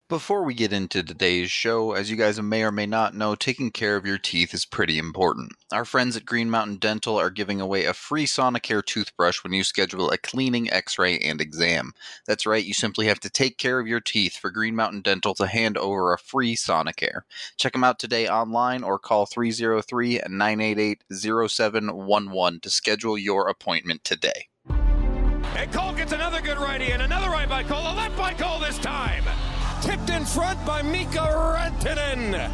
Before we get into today's show, as you guys may or may not know, taking care of your teeth is pretty important. Our friends at Green Mountain Dental are giving away a free Sonicare toothbrush when you schedule a cleaning, x-ray, and exam. That's right, you simply have to take care of your teeth for Green Mountain Dental to hand over a free Sonicare. Check them out today online or call 303-988-0711 to schedule your appointment today. And Cole gets another good righty and another right by Cole, a left by Cole this time. Tipped in front by Mika Rantanen.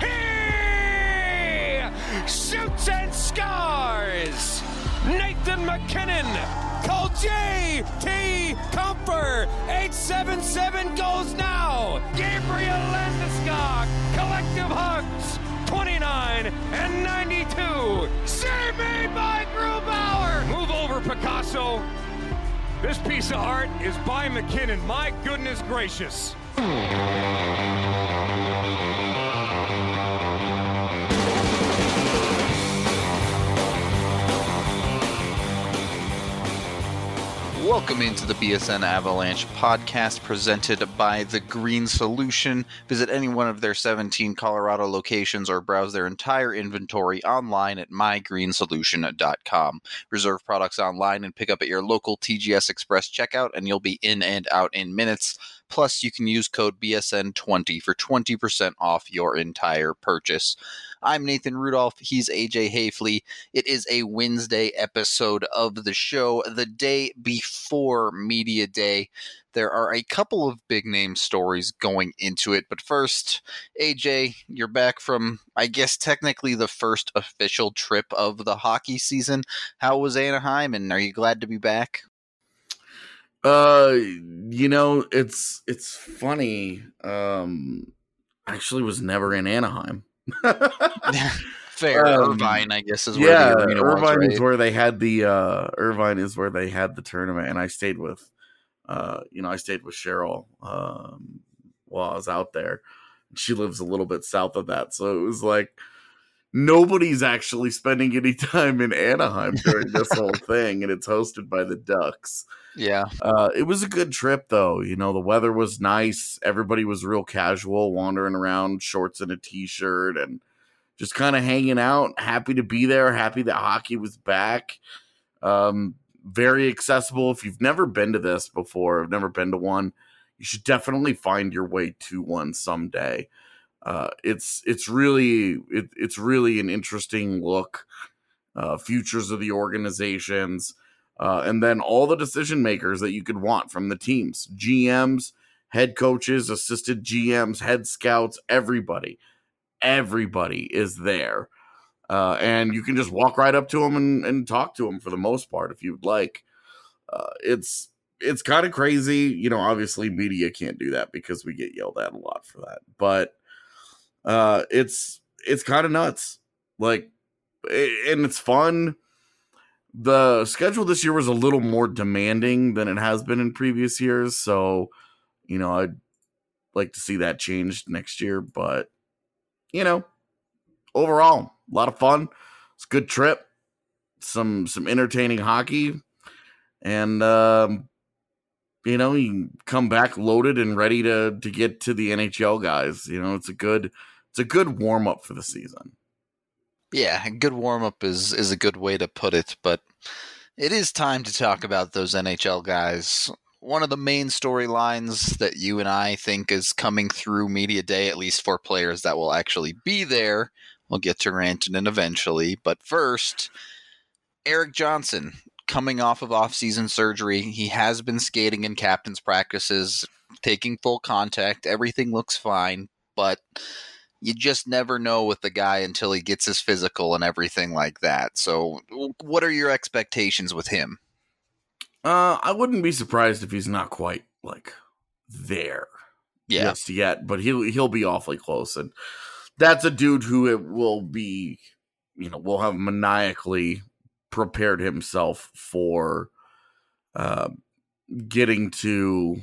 He shoots and scores. Nathan MacKinnon. Call J.T. Comfer. 877 goes now. Gabriel Landeskog. Collective hugs. 29 and 92. Save made by Grubauer. Move over, Picasso. This piece of art is by MacKinnon. My goodness gracious. Welcome into the BSN Avalanche podcast presented by The Green Solution. Visit any one of their 17 Colorado locations or browse their entire inventory online at mygreensolution.com. Reserve products online and pick up at your local TGS Express checkout, and you'll be in and out in minutes. Plus, you can use code BSN20 for 20% off your entire purchase. I'm Nathan Rudolph. He's AJ Hayfley. It is a Wednesday episode of the show, the day before Media Day. There are a couple of big name stories going into it, but first, AJ, you're back from, I guess, technically the first official trip of the hockey season. How was Anaheim, and are you glad to be back? It's funny. Actually was never in Anaheim. Fair. Irvine, I guess, is where the arena was, right? Is where they had the Irvine is where they had the tournament, and I stayed with Cheryl while I was out there. She lives a little bit south of that, so it was like nobody's actually spending any time in Anaheim during this whole thing, and it's hosted by the Ducks. Yeah. It was a good trip, though. You know, the weather was nice. Everybody was real casual, wandering around, shorts and a t-shirt, and just kind of hanging out. Happy to be there. Happy that hockey was back. Very accessible. If you've never been to this before, never been to one, you should definitely find your way to one someday. It's really an interesting look. Futures of the organizations. And then all the decision makers that you could want from the teams, GMs, head coaches, assistant GMs, head scouts, everybody is there. And you can just walk right up to them and talk to them for the most part, if you'd like. It's kind of crazy. You know, obviously media can't do that because we get yelled at a lot for that, but it's kind of nuts. Like, and it's fun. The schedule this year was a little more demanding than it has been in previous years. So, you know, I'd like to see that changed next year. But, you know, overall, a lot of fun. It's a good trip. Some entertaining hockey. And, you know, you come back loaded and ready to get to the NHL guys. You know, it's a good warm-up for the season. Yeah, a good warm-up is a good way to put it, but it is time to talk about those NHL guys. One of the main storylines that you and I think is coming through Media Day, at least for players that will actually be there, we'll get to Rantanen eventually, but first, Erik Johnson, coming off of off-season surgery. He has been skating in captain's practices, taking full contact, everything looks fine, but you just never know with the guy until he gets his physical and everything like that. So what are your expectations with him? I wouldn't be surprised if he's not quite like there just yet, but he'll be awfully close. And that's a dude who it will be, you know, will have maniacally prepared himself for getting to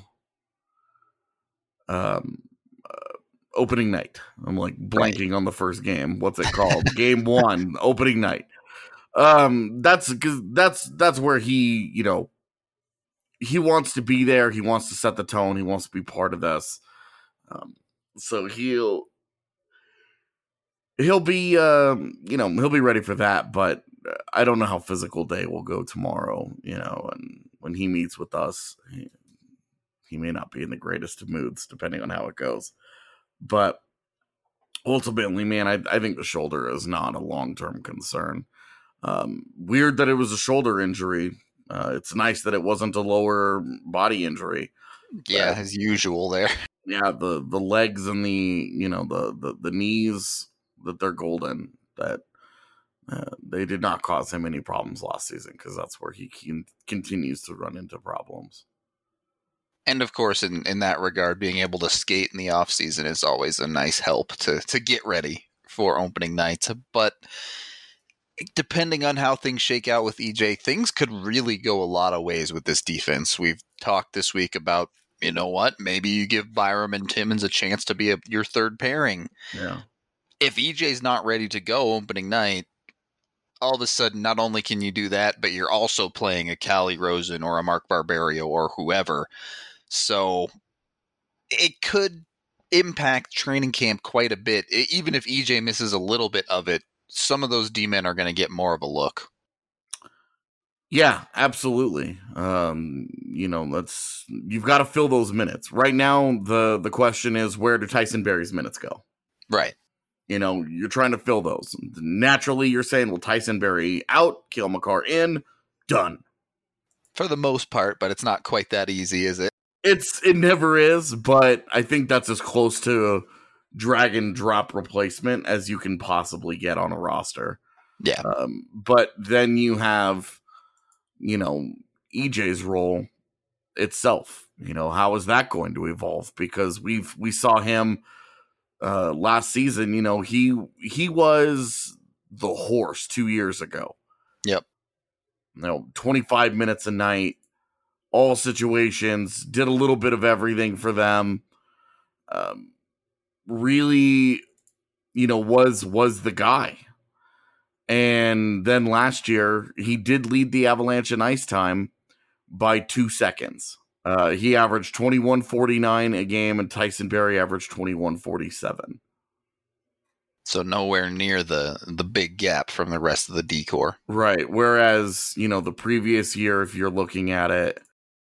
opening night. I'm like blanking on the first game. What's it called? Game 1, opening night. That's where he, you know, he wants to be there. He wants to set the tone. He wants to be part of this. So he'll be he'll be ready for that, but I don't know how physical day will go tomorrow, and when he meets with us, he may not be in the greatest of moods depending on how it goes. But ultimately, man, I think the shoulder is not a long-term concern. Weird that it was a shoulder injury. It's nice that it wasn't a lower body injury. Yeah, as usual there. Yeah, the legs and the knees, that they're golden, that they did not cause him any problems last season, because that's where he continues to run into problems. And of course, in that regard, being able to skate in the off season is always a nice help to get ready for opening nights. But depending on how things shake out with EJ, things could really go a lot of ways with this defense. We've talked this week about, you know what, maybe you give Byram and Timmons a chance to be your third pairing. Yeah. If EJ's not ready to go opening night, all of a sudden, not only can you do that, but you're also playing a Callie Rosen or a Mark Barberio or whoever. So it could impact training camp quite a bit. Even if EJ misses a little bit of it, some of those D-men are going to get more of a look. Yeah, absolutely. You've got to fill those minutes. Right now, the question is, where do Tyson Barrie's minutes go? Right. You're trying to fill those. Naturally, you're saying, well, Tyson Barrie out, Cale Makar in, done. For the most part, but it's not quite that easy, is it? It never is, but I think that's as close to a drag and drop replacement as you can possibly get on a roster. Yeah. But then you have, EJ's role itself. How is that going to evolve? Because we saw him last season. He was the horse 2 years ago. Yep. 25 minutes a night, all situations, did a little bit of everything for them. Really, was the guy. And then last year, he did lead the Avalanche in ice time by 2 seconds. He averaged 21:49 a game, and Tyson Barrie averaged 21:47. So nowhere near the big gap from the rest of the decor. Right. Whereas, the previous year, if you're looking at it,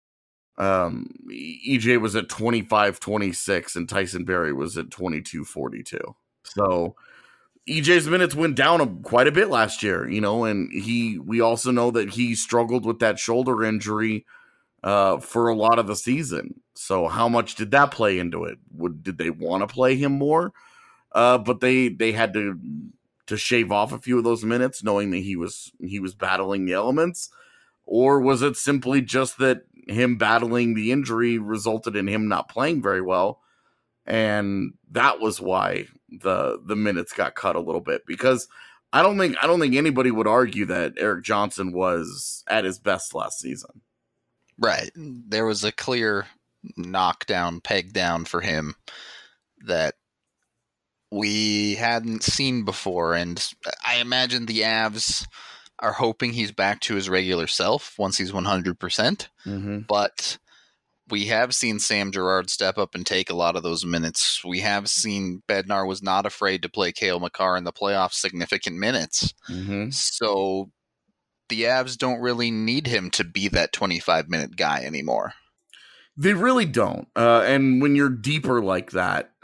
EJ was at 25:26 and Tyson Barrie was at 22:42. So EJ's minutes went down quite a bit last year, and we also know that he struggled with that shoulder injury for a lot of the season. So how much did that play into it? Did they want to play him more? But they had to shave off a few of those minutes, knowing that he was battling the elements, or was it simply just that him battling the injury resulted in him not playing very well, and that was why the minutes got cut a little bit? Because I don't think anybody would argue that Erik Johnson was at his best last season. Right. There was a clear knockdown, peg down for him that we hadn't seen before, and I imagine the Avs are hoping he's back to his regular self once he's 100%. Mm-hmm. But we have seen Sam Girard step up and take a lot of those minutes. We have seen Bednar was not afraid to play Cale Makar in the playoffs significant minutes. Mm-hmm. So the Avs don't really need him to be that 25-minute guy anymore. They really don't. And when you're deeper like that,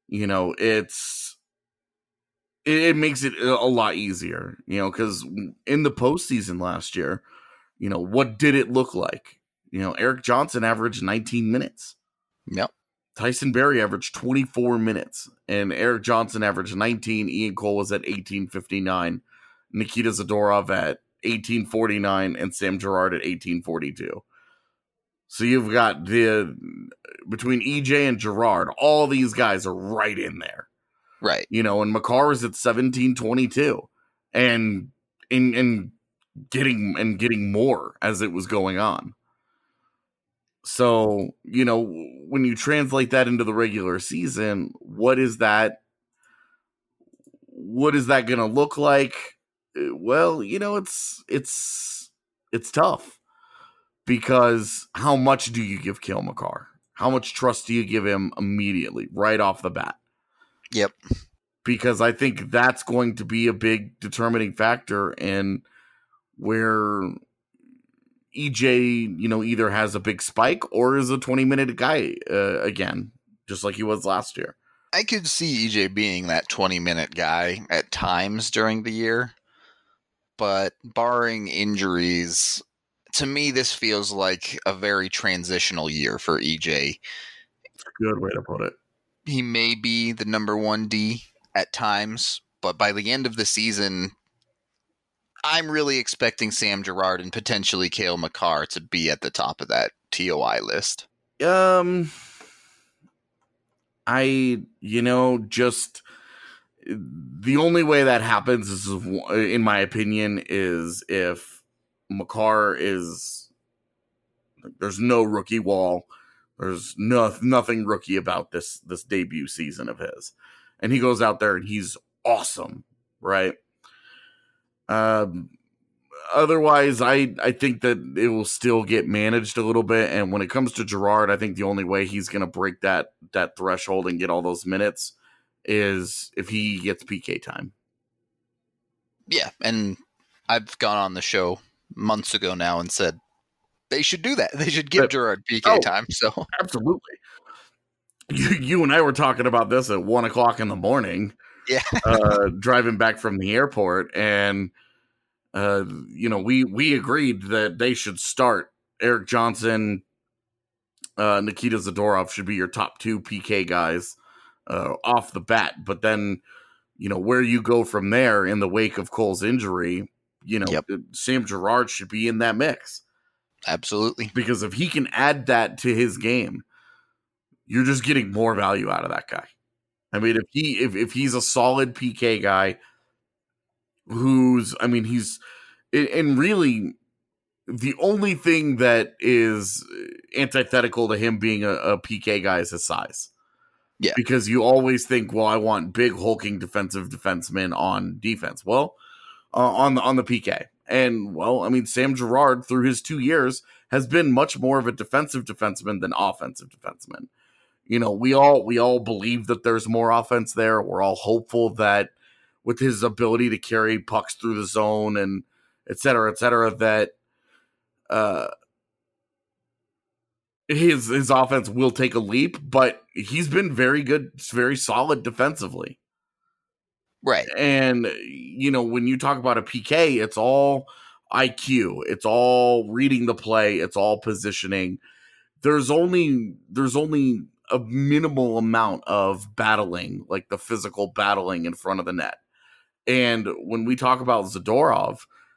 it makes it a lot easier, because in the postseason last year, what did it look like? Erik Johnson averaged 19 minutes. Yep. Tyson Barrie averaged 24 minutes, and Erik Johnson averaged 19. Ian Cole was at 18:59. Nikita Zadorov at 18:49, and Sam Girard at 18:42. So you've got between EJ and Girard, all these guys are right in there. Right. And Makar was at 17:22 and getting more as it was going on. So, when you translate that into the regular season, what is that going to look like? Well, it's tough, because how much do you give Cale Makar? How much trust do you give him immediately, right off the bat? Yep. Because I think that's going to be a big determining factor in where EJ, either has a big spike or is a 20-minute guy again, just like he was last year. I could see EJ being that 20-minute guy at times during the year, but barring injuries, to me, this feels like a very transitional year for EJ. Good way to put it. He may be the number 1D at times, but by the end of the season, I'm really expecting Sam Girard and potentially Cale Makar to be at the top of that TOI list. Just the only way that happens is, in my opinion, is if Makar there's no rookie wall. There's nothing rookie about this debut season of his. And he goes out there and he's awesome, right? Otherwise, I think that it will still get managed a little bit. And when it comes to Girard, I think the only way he's going to break that threshold and get all those minutes is if he gets PK time. Yeah, and I've gone on the show months ago now and said they should do that. They should give Girard PK time. So absolutely. You and I were talking about this at 1:00 in the morning. Yeah. Driving back from the airport, and we agreed that they should start Erik Johnson, Nikita Zadorov should be your top 2 PK guys off the bat. But then, where you go from there in the wake of Cole's injury, Sam Girard should be in that mix. Absolutely. Because if he can add that to his game, you're just getting more value out of that guy. I mean, if he's a solid PK guy he's really the only thing that is antithetical to him being a PK guy is his size. Yeah. Because you always think, well, I want big hulking defensemen on defense. Well, on the PK. And, Sam Girard, through his 2 years, has been much more of a defensive defenseman than offensive defenseman. We all believe that there's more offense there. We're all hopeful that with his ability to carry pucks through the zone and et cetera, that his offense will take a leap, but he's been very good, very solid defensively. Right. And, when you talk about a PK, it's all IQ. It's all reading the play. It's all positioning. There's only a minimal amount of battling, like the physical battling in front of the net. And when we talk about Zadorov,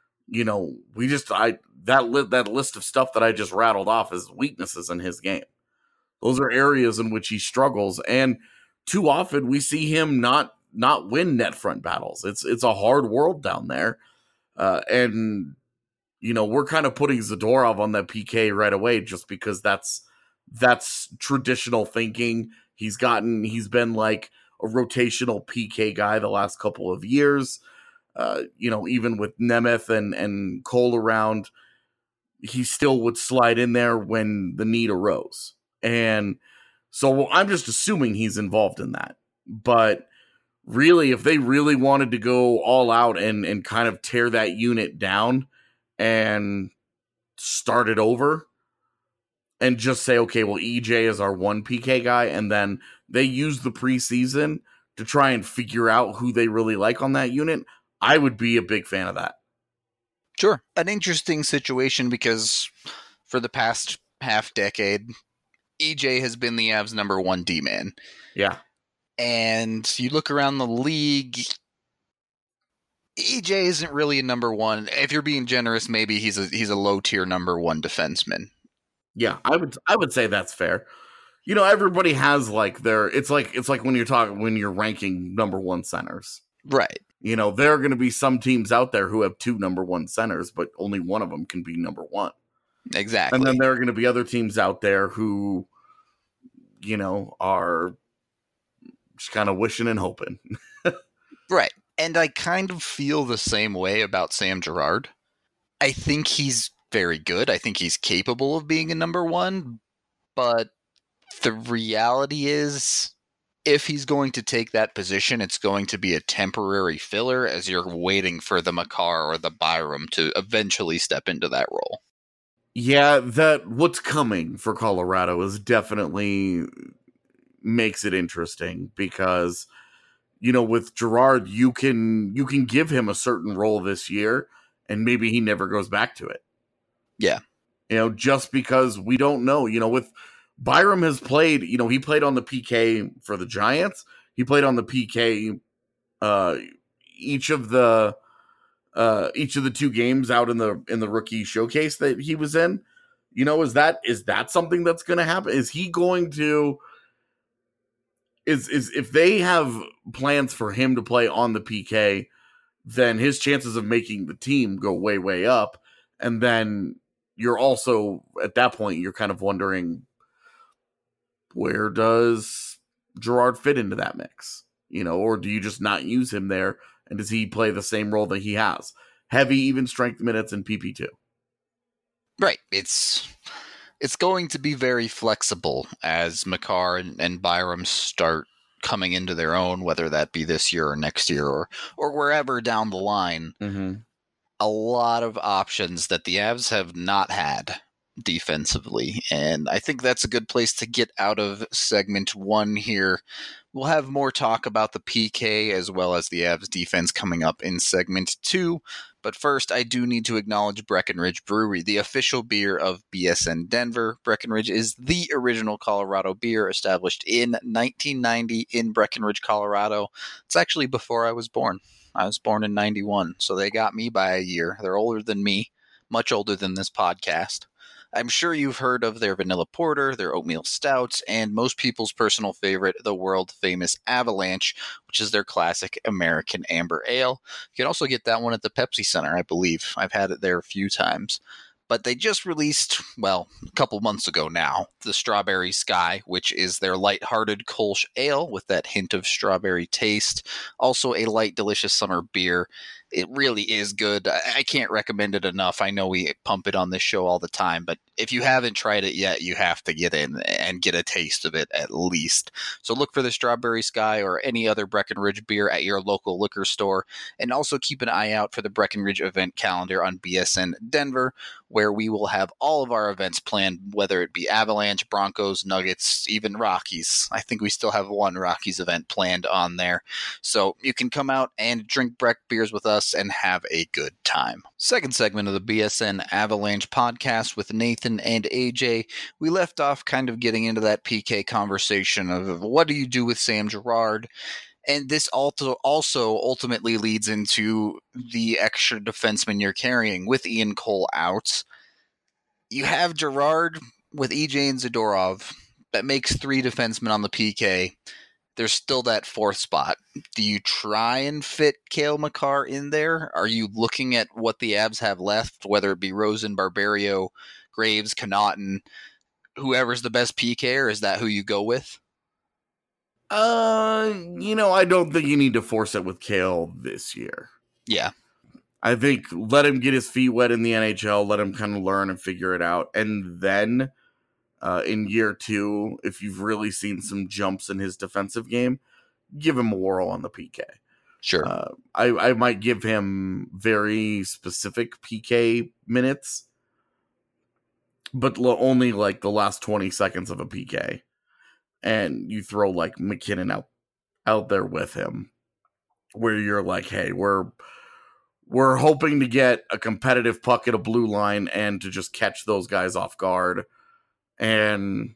that list of stuff that I just rattled off is weaknesses in his game. Those are areas in which he struggles. And too often we see him not win net front battles. It's a hard world down there. And we're kind of putting Zadorov on that PK right away just because that's traditional thinking. He's been like a rotational PK guy the last couple of years. Even with Nemeth and Cole around, he still would slide in there when the need arose. And so I'm just assuming he's involved in that. But really, if they really wanted to go all out and kind of tear that unit down and start it over and just say, okay, well, EJ is our 1 PK guy, and then they use the preseason to try and figure out who they really like on that unit, I would be a big fan of that. Sure. An interesting situation because for the past half decade, EJ has been the Avs' number 1 D-man. Yeah. And you look around the league, EJ isn't really a number 1. If you're being generous, maybe he's a low-tier number 1 defenseman. Yeah, I would say that's fair. Everybody has like it's like when you're ranking number 1 centers. Right. There are going to be some teams out there who have 2 number 1 centers, but only one of them can be number 1. Exactly. And then there are going to be other teams out there who, are just kind of wishing and hoping. Right. And I kind of feel the same way about Sam Girard. I think he's very good. I think he's capable of being a number 1, but The reality is, if he's going to take that position, it's going to be a temporary filler as you're waiting for the Makar or the Byram to eventually step into that role. Yeah, that what's coming for Colorado is definitely makes it interesting because, with Girard, you can give him a certain role this year and maybe he never goes back to it. Yeah. Just because we don't know, with Byram has played, he played on the PK for the Giants. He played on the PK each of the 2 games out in the rookie showcase that he was in. Is that something that's going to happen? Is he going to is if they have plans for him to play on the PK, then his chances of making the team go way, way up. And then you're also at that point, you're kind of wondering, where does Girard fit into that mix? Or do you just not use him there? And does he play the same role that he has? Heavy, even strength minutes in PP2. Right. It's going to be very flexible as Makar and Byram start coming into their own, whether that be this year or next year or wherever down the line. Mm-hmm. A lot of options that the Avs have not had defensively, and I think that's a good place to get out of segment 1 here. We'll have more talk about the PK as well as the Avs defense coming up in segment 2, but first I do need to acknowledge Breckenridge Brewery, the official beer of BSN Denver. Breckenridge is the original Colorado beer, established in 1990 in Breckenridge, Colorado. It's actually before I was born. I was born in 91, so they got me by a year. They're older than me, much older than this podcast. I'm sure you've heard of their vanilla porter, their oatmeal stouts, and most people's personal favorite, the world-famous Avalanche, which is their classic American amber ale. You can also get that one at the Pepsi Center, I believe. I've had it there a few times. But they just released, a couple months ago now, the Strawberry Sky, which is their lighthearted Kolsch ale with that hint of strawberry taste. Also a light, delicious summer beer. It really is good. I can't recommend it enough. I know we pump it on this show all the time, but if you haven't tried it yet, you have to get in and get a taste of it at least. So look for the Strawberry Sky or any other Breckenridge beer at your local liquor store. And also keep an eye out for the Breckenridge event calendar on BSN Denver, where we will have all of our events planned, whether it be Avalanche, Broncos, Nuggets, even Rockies. I think we still have one Rockies event planned on there. So you can come out and drink Breck beers with us and have a good time. Second segment of the BSN Avalanche podcast with Nathan and AJ. We left off kind of getting into that PK conversation of what do you do with Sam Girard? And this also ultimately leads into the extra defenseman you're carrying with Ian Cole out. You have Girard with EJ and Zadorov. That makes 3 defensemen on the PK. There's still that 4th spot. Do you try and fit Cale Makar in there? Are you looking at what the Avs have left, whether it be Rosen, Barberio, Graves, Connaughton, whoever's the best PK, or is that who you go with? I don't think you need to force it with Cale this year. Yeah. I think let him get his feet wet in the NHL, let him kind of learn and figure it out. And then in year 2, if you've really seen some jumps in his defensive game, give him a whirl on the PK. Sure. I might give him very specific PK minutes, but only like the last 20 seconds of a PK. And you throw like McKinnon out there with him, where you're like, hey, we're hoping to get a competitive puck at a blue line and to just catch those guys off guard and,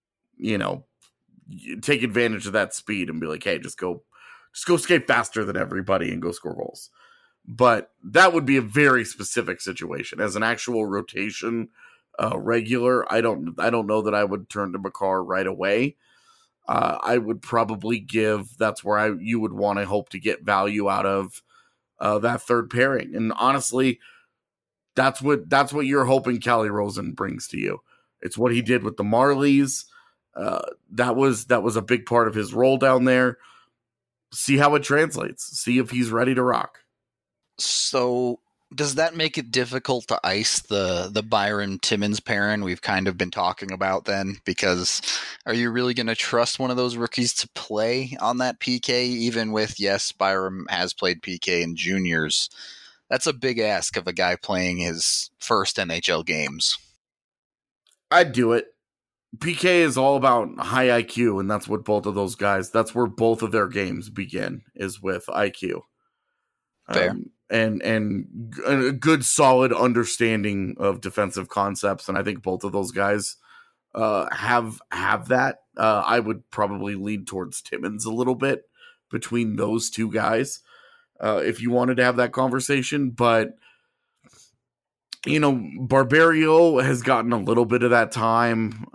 take advantage of that speed and be like, hey, just go skate faster than everybody and go score goals. But that would be a very specific situation. As an actual rotation regular, I don't know that I would turn to Makar right away. I would probably that's where you would want to hope to get value out of that third pairing. And honestly, that's what you're hoping Calle Rosen brings to you. It's what he did with the Marlies. That was a big part of his role down there. See how it translates. See if he's ready to rock. So Does that make it difficult to ice the Byron Timmons pairing we've kind of been talking about then? Because are you really going to trust one of those rookies to play on that PK, even with, yes, Byron has played PK in juniors? That's a big ask of a guy playing his first NHL games. I'd do it. PK is all about high IQ, and that's what both of those guys, that's where both of their games begin, is with IQ. Fair. And a good solid understanding of defensive concepts, and I think both of those guys have that. I would probably lead towards Timmons a little bit between those two guys if you wanted to have that conversation, but Barberio has gotten a little bit of that time.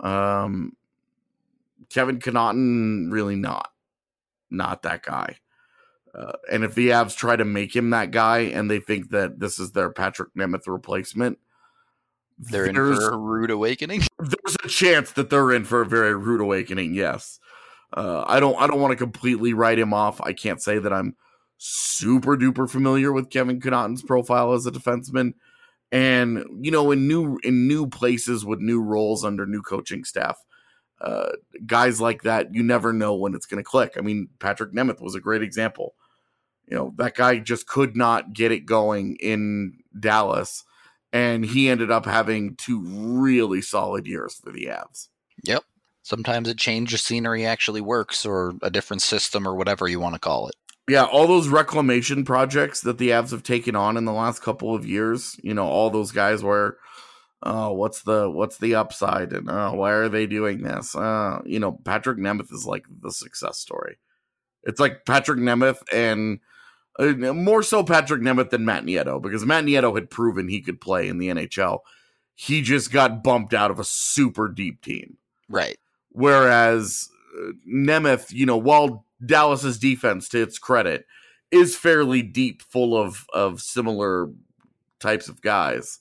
Kevin Connauton, really not that guy. And if the Avs try to make him that guy and they think that this is their Patrick Nemeth replacement, they're in for a rude awakening. There's a chance that they're in for a very rude awakening. Yes. I don't want to completely write him off. I can't say that I'm super duper familiar with Kevin Connauton's profile as a defenseman. And, in new places with new roles under new coaching staff, guys like that, you never know when it's going to click. I mean, Patrick Nemeth was a great example. That guy just could not get it going in Dallas, and he ended up having 2 really solid years for the Avs. Yep. Sometimes a change of scenery actually works, or a different system, or whatever you want to call it. Yeah, all those reclamation projects that the Avs have taken on in the last couple of years, all those guys where, what's the upside, and why are they doing this? Patrick Nemeth is like the success story. It's like Patrick Nemeth and more so Patrick Nemeth than Matt Nieto, because Matt Nieto had proven he could play in the NHL. He just got bumped out of a super deep team. Right. Whereas Nemeth, while Dallas's defense, to its credit, is fairly deep, full of similar types of guys.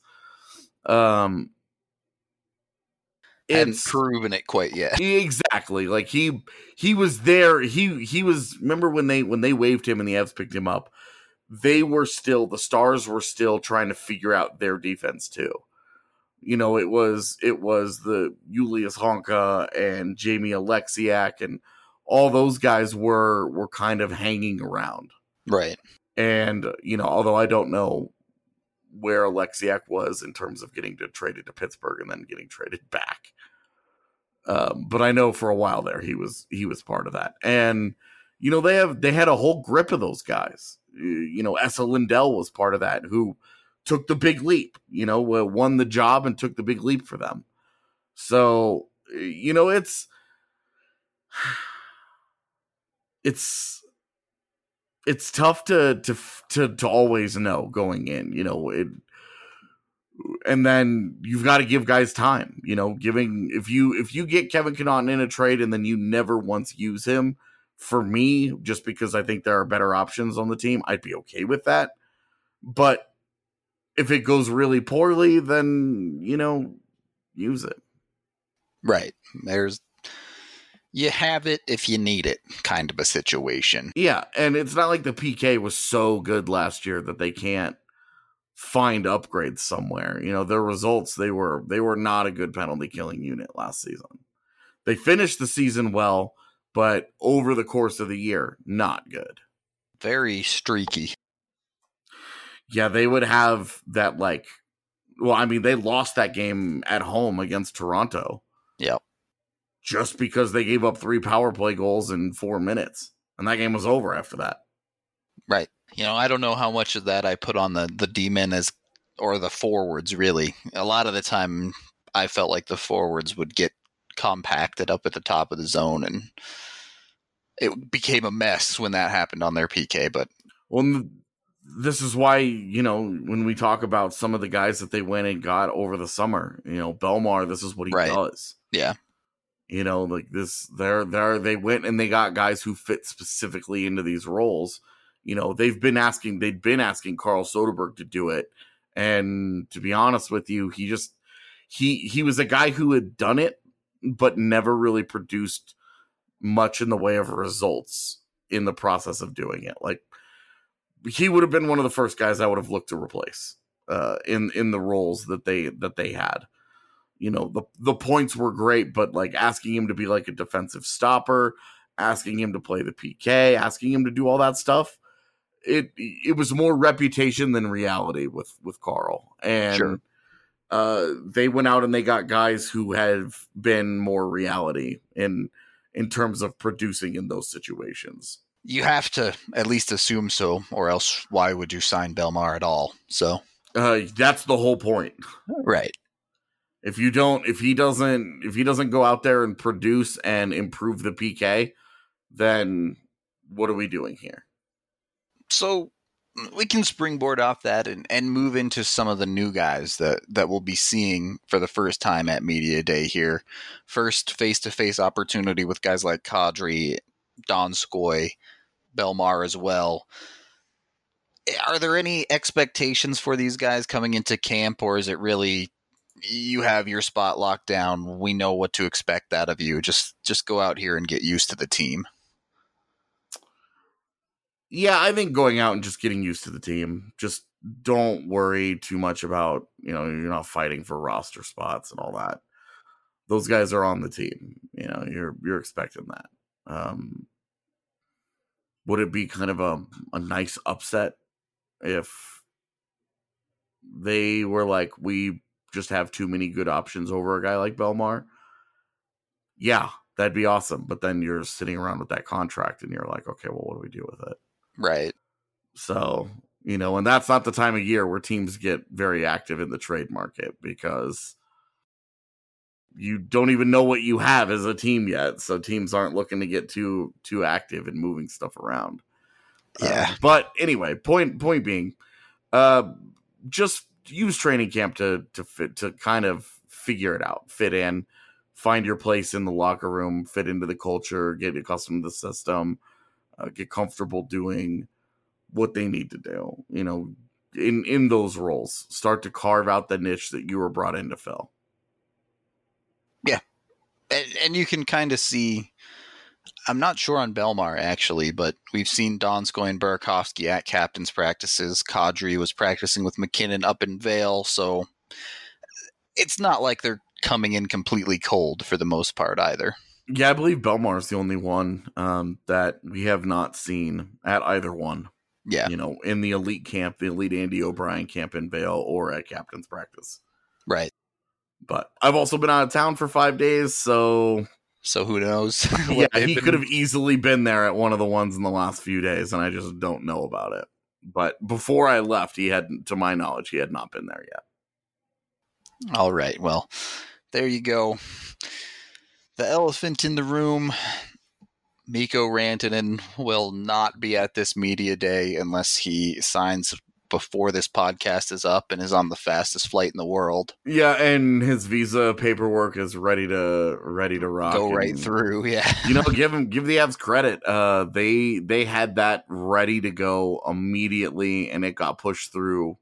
Hadn't proven it quite yet. Exactly. Like he was there. He was. Remember when they waived him and the Avs picked him up? The Stars were still trying to figure out their defense too. It was the Julius Honka and Jamie Alexiak, and all those guys were kind of hanging around. Right. And, although I don't know where Alexiak was in terms of getting traded to Pittsburgh and then getting traded back. But I know for a while there he was part of that. And, they had a whole grip of those guys. Esa Lindell was part of that, who took the big leap, won the job and took the big leap for them. So, it's tough to always know going in, and then you've got to give guys time, if you get Kevin Connauton in a trade and then you never once use him, for me, just because I think there are better options on the team, I'd be okay with that. But if it goes really poorly, then, use it. Right. You have it if you need it, kind of a situation. Yeah, and it's not like the PK was so good last year that they can't find upgrades somewhere. Their results, they were not a good penalty killing unit last season. They finished the season well, but over the course of the year, not good. Very streaky. Yeah, they would have that they lost that game at home against Toronto. Yep. Just because they gave up 3 power play goals in 4 minutes. And that game was over after that. Right. I don't know how much of that I put on the D-men or the forwards, really. A lot of the time, I felt like the forwards would get compacted up at the top of the zone, and it became a mess when that happened on their PK. But this is why, when we talk about some of the guys that they went and got over the summer, Belmar, this is what he does. Yeah. Like this, they went and they got guys who fit specifically into these roles. They'd been asking Carl Soderberg to do it. And to be honest with you, he was a guy who had done it, but never really produced much in the way of results in the process of doing it. Like, he would have been one of the first guys I would have looked to replace in the roles that they had. The points were great, but like asking him to be like a defensive stopper, asking him to play the PK, asking him to do all that stuff, it was more reputation than reality with Carl. And Sure. They went out and they got guys who have been more reality in terms of producing in those situations. You have to at least assume so, or else why would you sign Belmar at all? So that's the whole point. Right. If he doesn't go out there and produce and improve the PK, then what are we doing here? So we can springboard off that and move into some of the new guys that we'll be seeing for the first time at Media Day here. First face-to-face opportunity with guys like Kadri, Donskoy, Belmar as well. Are there any expectations for these guys coming into camp, or is it really you have your spot locked down, we know what to expect out of you, just go out here and get used to the team? Yeah, I think going out and just getting used to the team. Just don't worry too much about, you're not fighting for roster spots and all that. Those guys are on the team. You're expecting that. Would it be kind of a nice upset if they were like, we just have too many good options over a guy like Belmar? Yeah, that'd be awesome. But then you're sitting around with that contract and you're like, okay, well, what do we do with it? Right. So, and that's not the time of year where teams get very active in the trade market, because you don't even know what you have as a team yet. So teams aren't looking to get too active in moving stuff around. Yeah. But anyway, point being, just use training camp to kind of figure it out, fit in, find your place in the locker room, fit into the culture, get accustomed to the system, get comfortable doing what they need to do, in those roles. Start to carve out the niche that you were brought in to fill. Yeah. And you can kind of see, I'm not sure on Belmar actually, but we've seen Donskoy and Burakovsky at captain's practices. Kadri was practicing with McKinnon up in Vail, so it's not like they're coming in completely cold for the most part either. Yeah, I believe Belmar is the only one that we have not seen at either one. Yeah. In the elite camp, the elite Andy O'Brien camp in Vail, or at captain's practice. Right. But I've also been out of town for 5 days, so who knows? Yeah, he could have easily been there at one of the ones in the last few days, and I just don't know about it. But before I left, to my knowledge, he had not been there yet. All right. Well, there you go. The elephant in the room, Mikko Rantanen, will not be at this media day unless he signs before this podcast is up and is on the fastest flight in the world. Yeah, and his visa paperwork is ready to rock. Go right through, yeah. Give the Avs credit. They had that ready to go immediately, and it got pushed through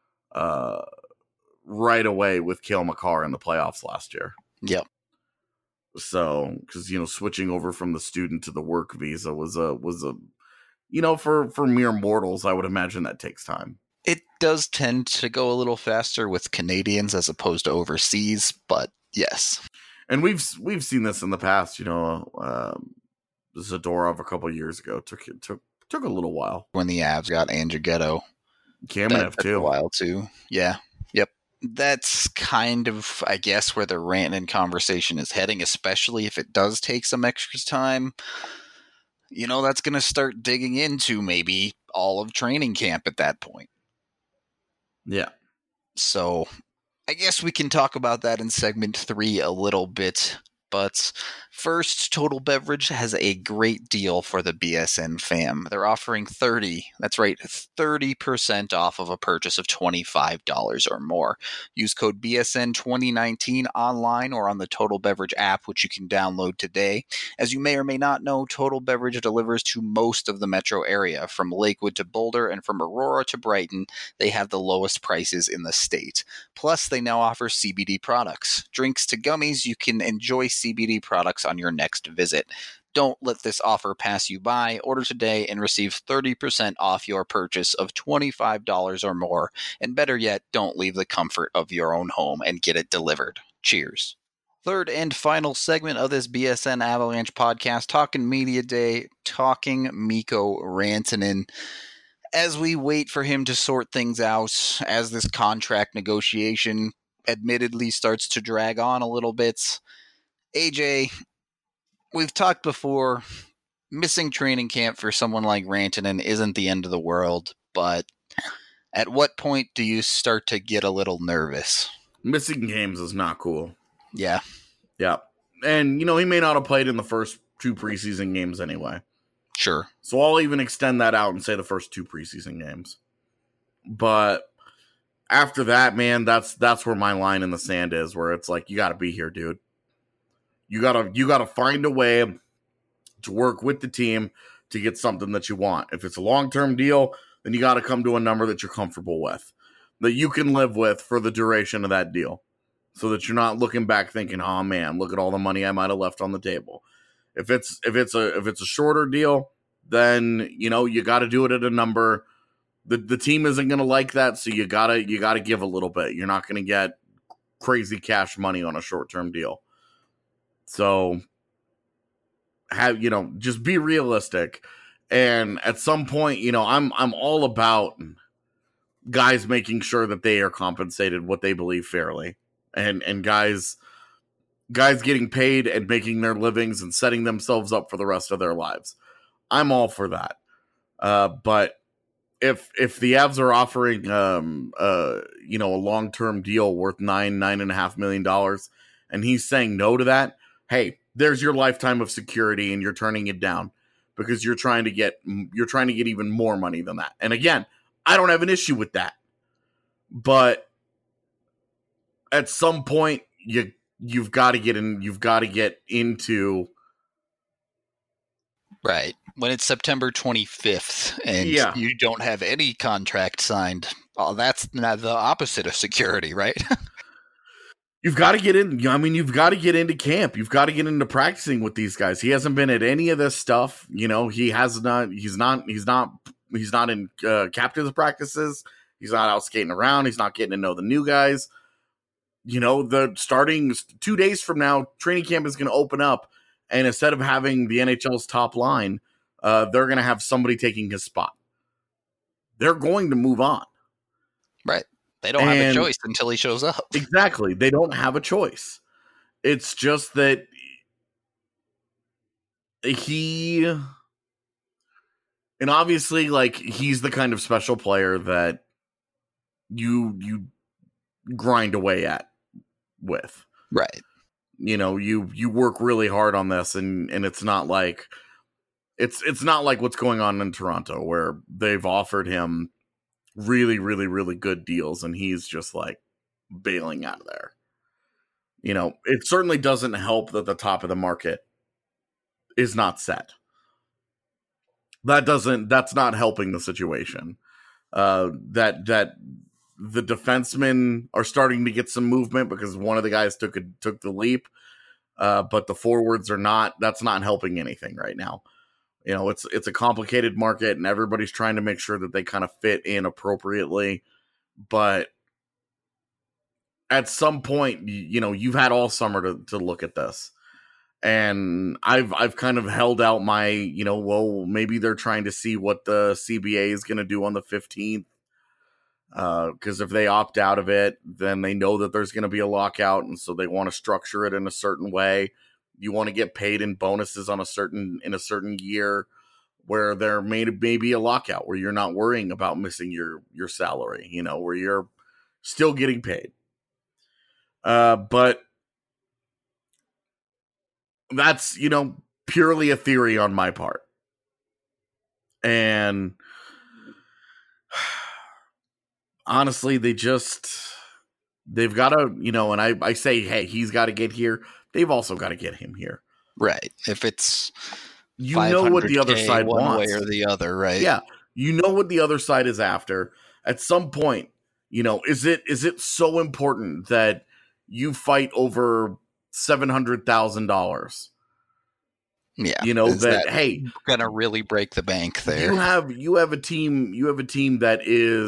right away with Cale Makar in the playoffs last year. Yep. So, because switching over from the student to the work visa was a for mere mortals, I would imagine that takes time. It does tend to go a little faster with Canadians as opposed to overseas, but yes. And we've seen this in the past. Zadorov a couple years ago took a little while. When the Avs got Andrew Ghetto. Kamenev too. A while too. Yeah. Yep. That's kind of, I guess, where the Rantanen conversation is heading, especially if it does take some extra time. That's going to start digging into maybe all of training camp at that point. Yeah. So I guess we can talk about that in segment 3 a little bit. But first, Total Beverage has a great deal for the BSN fam. They're offering 30% off of a purchase of $25 or more. Use code BSN 2019 online or on the Total Beverage app, which you can download today. As you may or may not know, Total Beverage delivers to most of the metro area. From Lakewood to Boulder and from Aurora to Brighton, they have the lowest prices in the state. Plus, they now offer CBD products. Drinks to gummies, you can enjoy CBD products on your next visit. Don't let this offer pass you by. Order today and receive 30% off your purchase of $25 or more. And better yet, don't leave the comfort of your own home and get it delivered. Cheers. Third and final segment of this BSN Avalanche podcast, talking Media Day, talking Mikko Rantanen. As we wait for him to sort things out, as this contract negotiation admittedly starts to drag on a little bit, AJ, we've talked before, missing training camp for someone like Rantanen isn't the end of the world, but at what point do you start to get a little nervous? Missing games is not cool. Yeah. Yeah. And, he may not have played in the first 2 preseason games anyway. Sure. So I'll even extend that out and say the first 2 preseason games. But after that, man, that's where my line in the sand is, where it's like, you got to be here, dude. You gotta find a way to work with the team to get something that you want. If it's a long-term deal, then you got to come to a number that you're comfortable with, that you can live with for the duration of that deal, so that you're not looking back thinking, "Oh man, look at all the money I might have left on the table." If it's a shorter deal, then you got to do it at a number. The team isn't going to like that, so you gotta give a little bit. You're not going to get crazy cash money on a short-term deal. So just be realistic. And at some point, I'm all about guys making sure that they are compensated what they believe fairly. And guys getting paid and making their livings and setting themselves up for the rest of their lives. I'm all for that. But if the Avs are offering a long-term deal worth $9.5 million, and he's saying no to that, hey, there's your lifetime of security, and you're turning it down because you're trying to get even more money than that. And again, I don't have an issue with that, but at some point, you've got to get in. You've got to get into right when it's September 25th, and you don't have any contract signed. Oh, that's not the opposite of security, right? You've got to get in. I mean, you've got to get into camp. You've got to get into practicing with these guys. He hasn't been at any of this stuff. He has not. He's not in captain's practices. He's not out skating around. He's not getting to know the new guys. The starting 2 days from now, training camp is going to open up, and instead of having the NHL's top line, they're going to have somebody taking his spot. They're going to move on. Right. They don't have a choice until he shows up. Exactly. They don't have a choice. It's just that and obviously, he's the kind of special player that you grind away at with. Right. You work really hard on this, and it's not like it's not like what's going on in Toronto, where they've offered him really, really, really good deals, and he's just bailing out of there. It certainly doesn't help that the top of the market is not set. That's not helping the situation. That the defensemen are starting to get some movement because one of the guys took the leap, but the forwards are not. That's not helping anything right now. It's a complicated market, and everybody's trying to make sure that they kind of fit in appropriately. But at some point, you've had all summer to look at this. And I've kind of held out my, well, maybe they're trying to see what the CBA is going to do on the 15th. Because if they opt out of it, then they know that there's going to be a lockout. And so they want to structure it in a certain way. You want to get paid in bonuses in a certain year where there may be a lockout, where you're not worrying about missing your salary, where you're still getting paid. But that's, purely a theory on my part. And honestly, they've got to, and I say, hey, he's got to get here. They've also got to get him here. Right. If it's what the other side one wants. Way or the other, right? Yeah. What the other side is after. At some point, is it so important that you fight over $700,000? Yeah. You know, Is that hey, gonna really break the bank there. you have a team that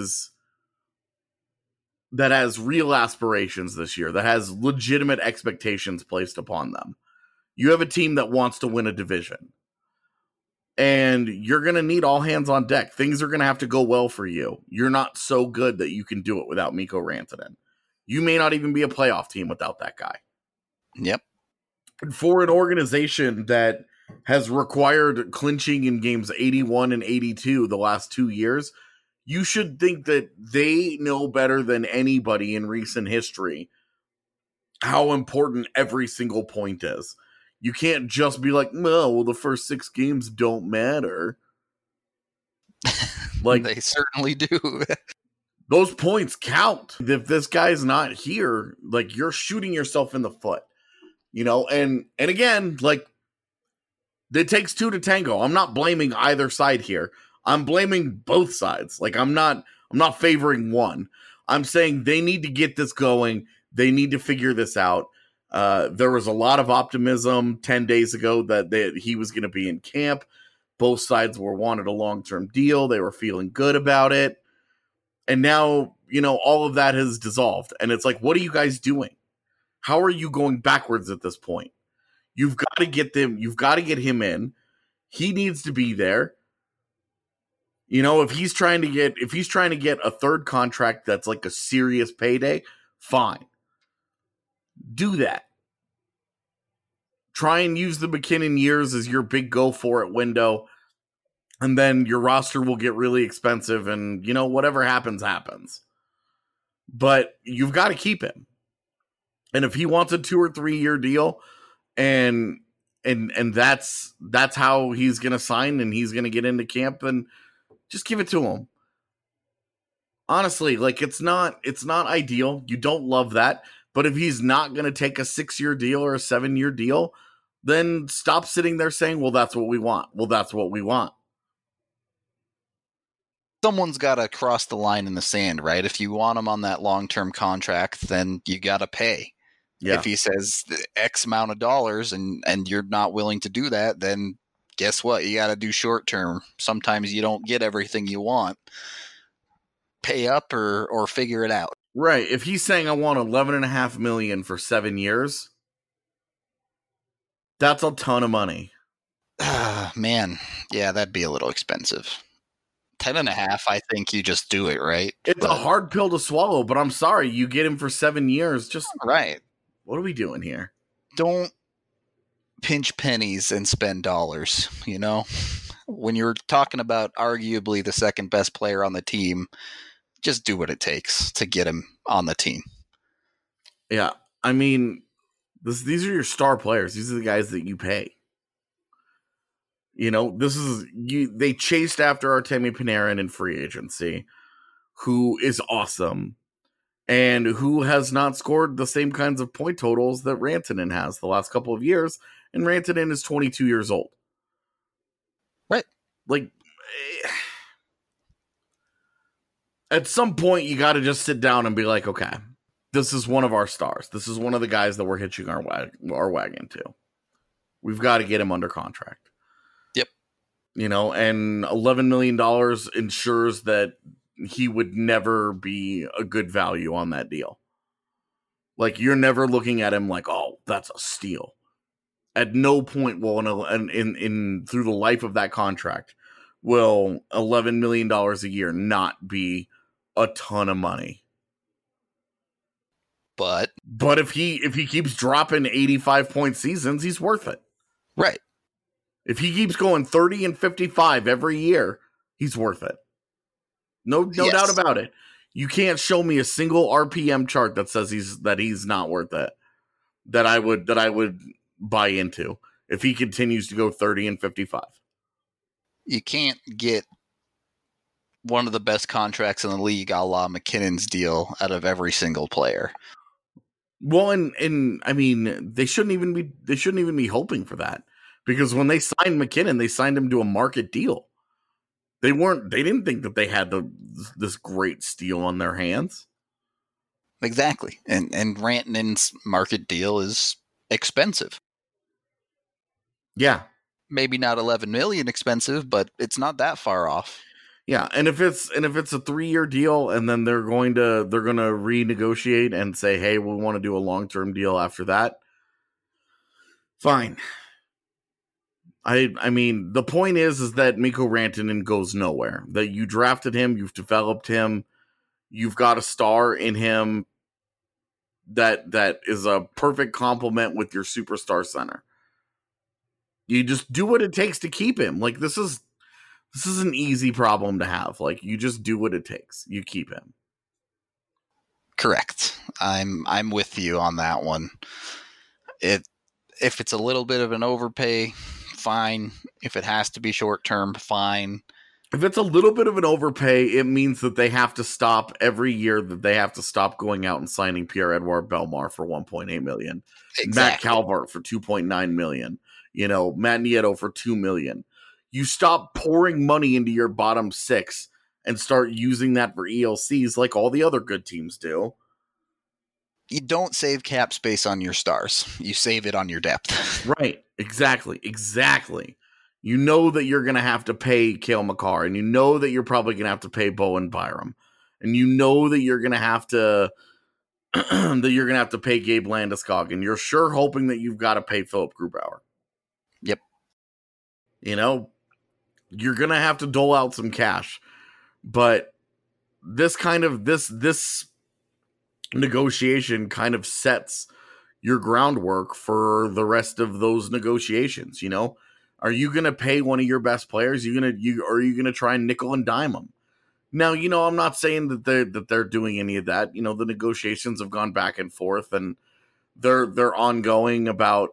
has real aspirations this year, that has legitimate expectations placed upon them. You have a team that wants to win a division. And you're going to need all hands on deck. Things are going to have to go well for you. You're not so good that you can do it without Mikko Rantanen. You may not even be a playoff team without that guy. Yep. And for an organization that has required clinching in games 81 and 82 the last 2 years, you should think that they know better than anybody in recent history how important every single point is. You can't just be like, no, well, the first 6 games don't matter. Like, they certainly do. Those points count. If this guy's not here, like, you're shooting yourself in the foot, you know? And again, like, it takes 2 to tango. I'm not blaming either side here. I'm blaming both sides. Like, I'm not favoring one. I'm saying they need to get this going. They need to figure this out. There was a lot of optimism 10 days ago that he was going to be in camp. Both sides wanted a long-term deal. They were feeling good about it. And now, you know, all of that has dissolved. And it's like, what are you guys doing? How are you going backwards at this point? You've got to get him in. He needs to be there. You know, if he's trying to get a third contract that's like a serious payday, fine. Do that. Try and use the MacKinnon years as your big go for it window, and then your roster will get really expensive, and you know, whatever happens. But you've got to keep him. And if he wants a 2 or 3 year deal, and that's how he's going to sign, and he's going to get into camp, then just give it to him. Honestly, like, it's not ideal. You don't love that. But if he's not going to take a 6-year deal or a 7-year deal, then stop sitting there saying, well, that's what we want. Well, that's what we want. Someone's got to cross the line in the sand, right? If you want him on that long-term contract, then you got to pay. Yeah. If he says X amount of dollars and you're not willing to do that, then guess what? You got to do short-term. Sometimes you don't get everything you want. Pay up or figure it out. Right. If he's saying I want $11.5 million for 7 years, that's a ton of money. Man, yeah, that'd be a little expensive. 10.5, I think you just do it, right? It's a hard pill to swallow, but I'm sorry, you get him for 7 years. Just right. What are we doing here? Don't pinch pennies and spend dollars, you know? When you're talking about arguably the second best player on the team, just do what it takes to get him on the team. Yeah. I mean, these are your star players. These are the guys that you pay. You know, they chased after Artemi Panarin in free agency, who is awesome and who has not scored the same kinds of point totals that Rantanen has the last couple of years. And Rantanen is 22 years old. Right. Like, at some point, you got to just sit down and be like, okay, this is one of our stars. This is one of the guys that we're hitching our wagon to. We've got to get him under contract. Yep. You know, and $11 million ensures that he would never be a good value on that deal. Like, you're never looking at him like, oh, that's a steal. At no point will in through the life of that contract will $11 million a year not be a ton of money. But if he keeps dropping 85-point seasons, he's worth it. Right. If he keeps going 30 and 55 every year, he's worth it. No doubt about it. You can't show me a single RPM chart that says he's not worth it. That I would buy into if he continues to go 30 and 55. You can't get one of the best contracts in the league, a la McKinnon's deal, out of every single player. Well, and I mean, they shouldn't even be hoping for that, because when they signed MacKinnon, they signed him to a market deal. They didn't think that they had this great steal on their hands. Exactly. And Rantanen's market deal is expensive. Yeah. Maybe not 11 million expensive, but it's not that far off. Yeah, and if it's a 3-year deal, and then they're going to renegotiate and say, hey, we want to do a long-term deal after that, fine. I mean, the point is that Mikko Rantanen goes nowhere. That you drafted him, you've developed him, you've got a star in him that is a perfect complement with your superstar center. You just do what it takes to keep him. Like, this is an easy problem to have. Like, you just do what it takes. You keep him. Correct. I'm with you on that one. If it's a little bit of an overpay, fine. If it has to be short term, fine. If it's a little bit of an overpay, it means that they have to stop every year, that they have to stop going out and signing Pierre-Edouard Bellemare for $1.8 million. Exactly. Matt Calvert for $2.9 million. Matt Nieto for $2 million. You stop pouring money into your bottom six and start using that for ELCs like all the other good teams do. You don't save cap space on your stars. You save it on your depth. Right. Exactly. You know that you're going to have to pay Cale Makar, and you know that you're probably going to have to pay Bowen Byram, and you know that you're going to have to pay Gabe Landeskog, and you're sure hoping that you've got to pay Philip Grubauer. Yep. You're going to have to dole out some cash, but this negotiation kind of sets your groundwork for the rest of those negotiations. Are you going to pay one of your best players? Are you going to try and nickel and dime them? Now, I'm not saying that they're doing any of that. The negotiations have gone back and forth, and they're ongoing about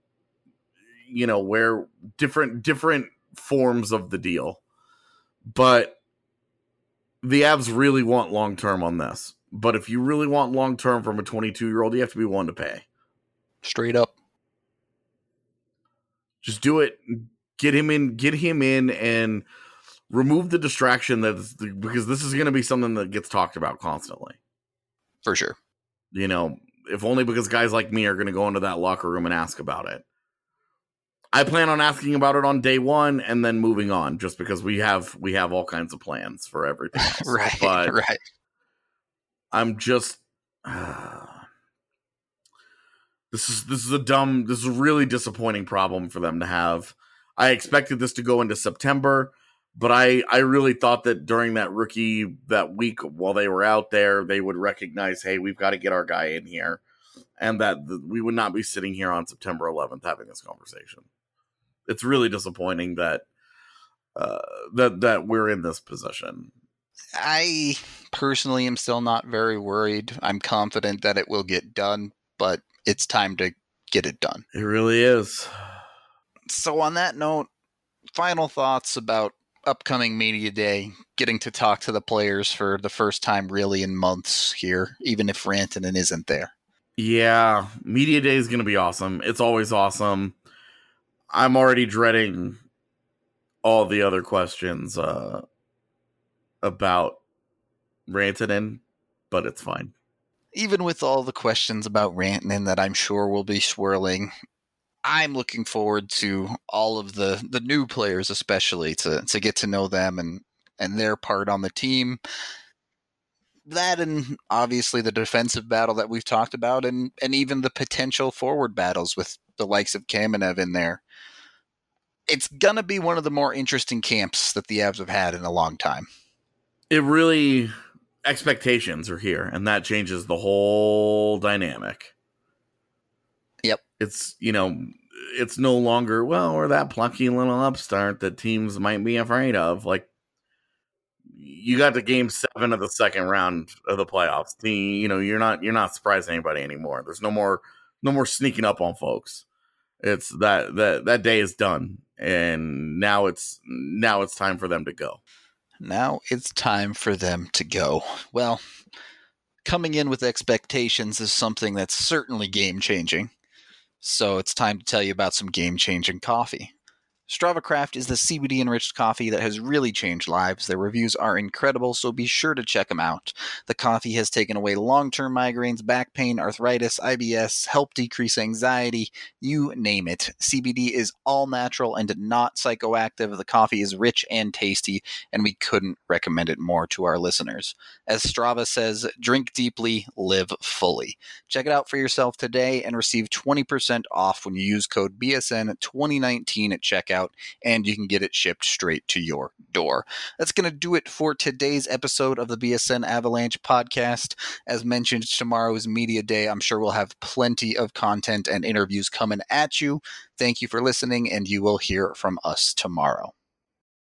where different forms of the deal. But the Avs really want long term on this. But if you really want long term from a 22-year-old, you have to be willing to pay. Straight up. Just do it. Get him in, and remove the distraction because this is going to be something that gets talked about constantly. For sure. If only because guys like me are going to go into that locker room and ask about it. I plan on asking about it on day one and then moving on, just because we have all kinds of plans for everything else. Right. I'm just this is a really disappointing problem for them to have. I expected this to go into September, but I really thought that during that week while they were out there, they would recognize, hey, we've got to get our guy in here, and that we would not be sitting here on September 11th having this conversation. It's really disappointing that we're in this position. I personally am still not very worried. I'm confident that it will get done, but it's time to get it done. It really is. So on that note, final thoughts about upcoming Media Day, getting to talk to the players for the first time really in months here, even if Rantanen isn't there. Yeah, Media Day is going to be awesome. It's always awesome. I'm already dreading all the other questions about Rantanen, but it's fine. Even with all the questions about Rantanen that I'm sure will be swirling, I'm looking forward to all of the new players, especially to get to know them and their part on the team. That, and obviously the defensive battle that we've talked about, and even the potential forward battles with the likes of Kamenev in there. It's going to be one of the more interesting camps that the Avs have had in a long time. It really, expectations are here, and that changes the whole dynamic. Yep. It's no longer, well, we're that plucky little upstart that teams might be afraid of. Like, you got to game 7 of the second round of the playoffs. You're not surprising anybody anymore. There's no more sneaking up on folks. It's that day is done, and now it's time for them to go. Now it's time for them to go. Well, coming in with expectations is something that's certainly game-changing. So it's time to tell you about some game-changing coffee. Strava Craft is the CBD-enriched coffee that has really changed lives. Their reviews are incredible, so be sure to check them out. The coffee has taken away long-term migraines, back pain, arthritis, IBS, helped decrease anxiety, you name it. CBD is all natural and not psychoactive. The coffee is rich and tasty, and we couldn't recommend it more to our listeners. As Strava says, drink deeply, live fully. Check it out for yourself today and receive 20% off when you use code BSN2019 at checkout, and you can get it shipped straight to your door. That's going to do it for today's episode of the BSN Avalanche podcast. As mentioned, tomorrow is Media Day. I'm sure we'll have plenty of content and interviews coming at you. Thank you for listening, and you will hear from us tomorrow.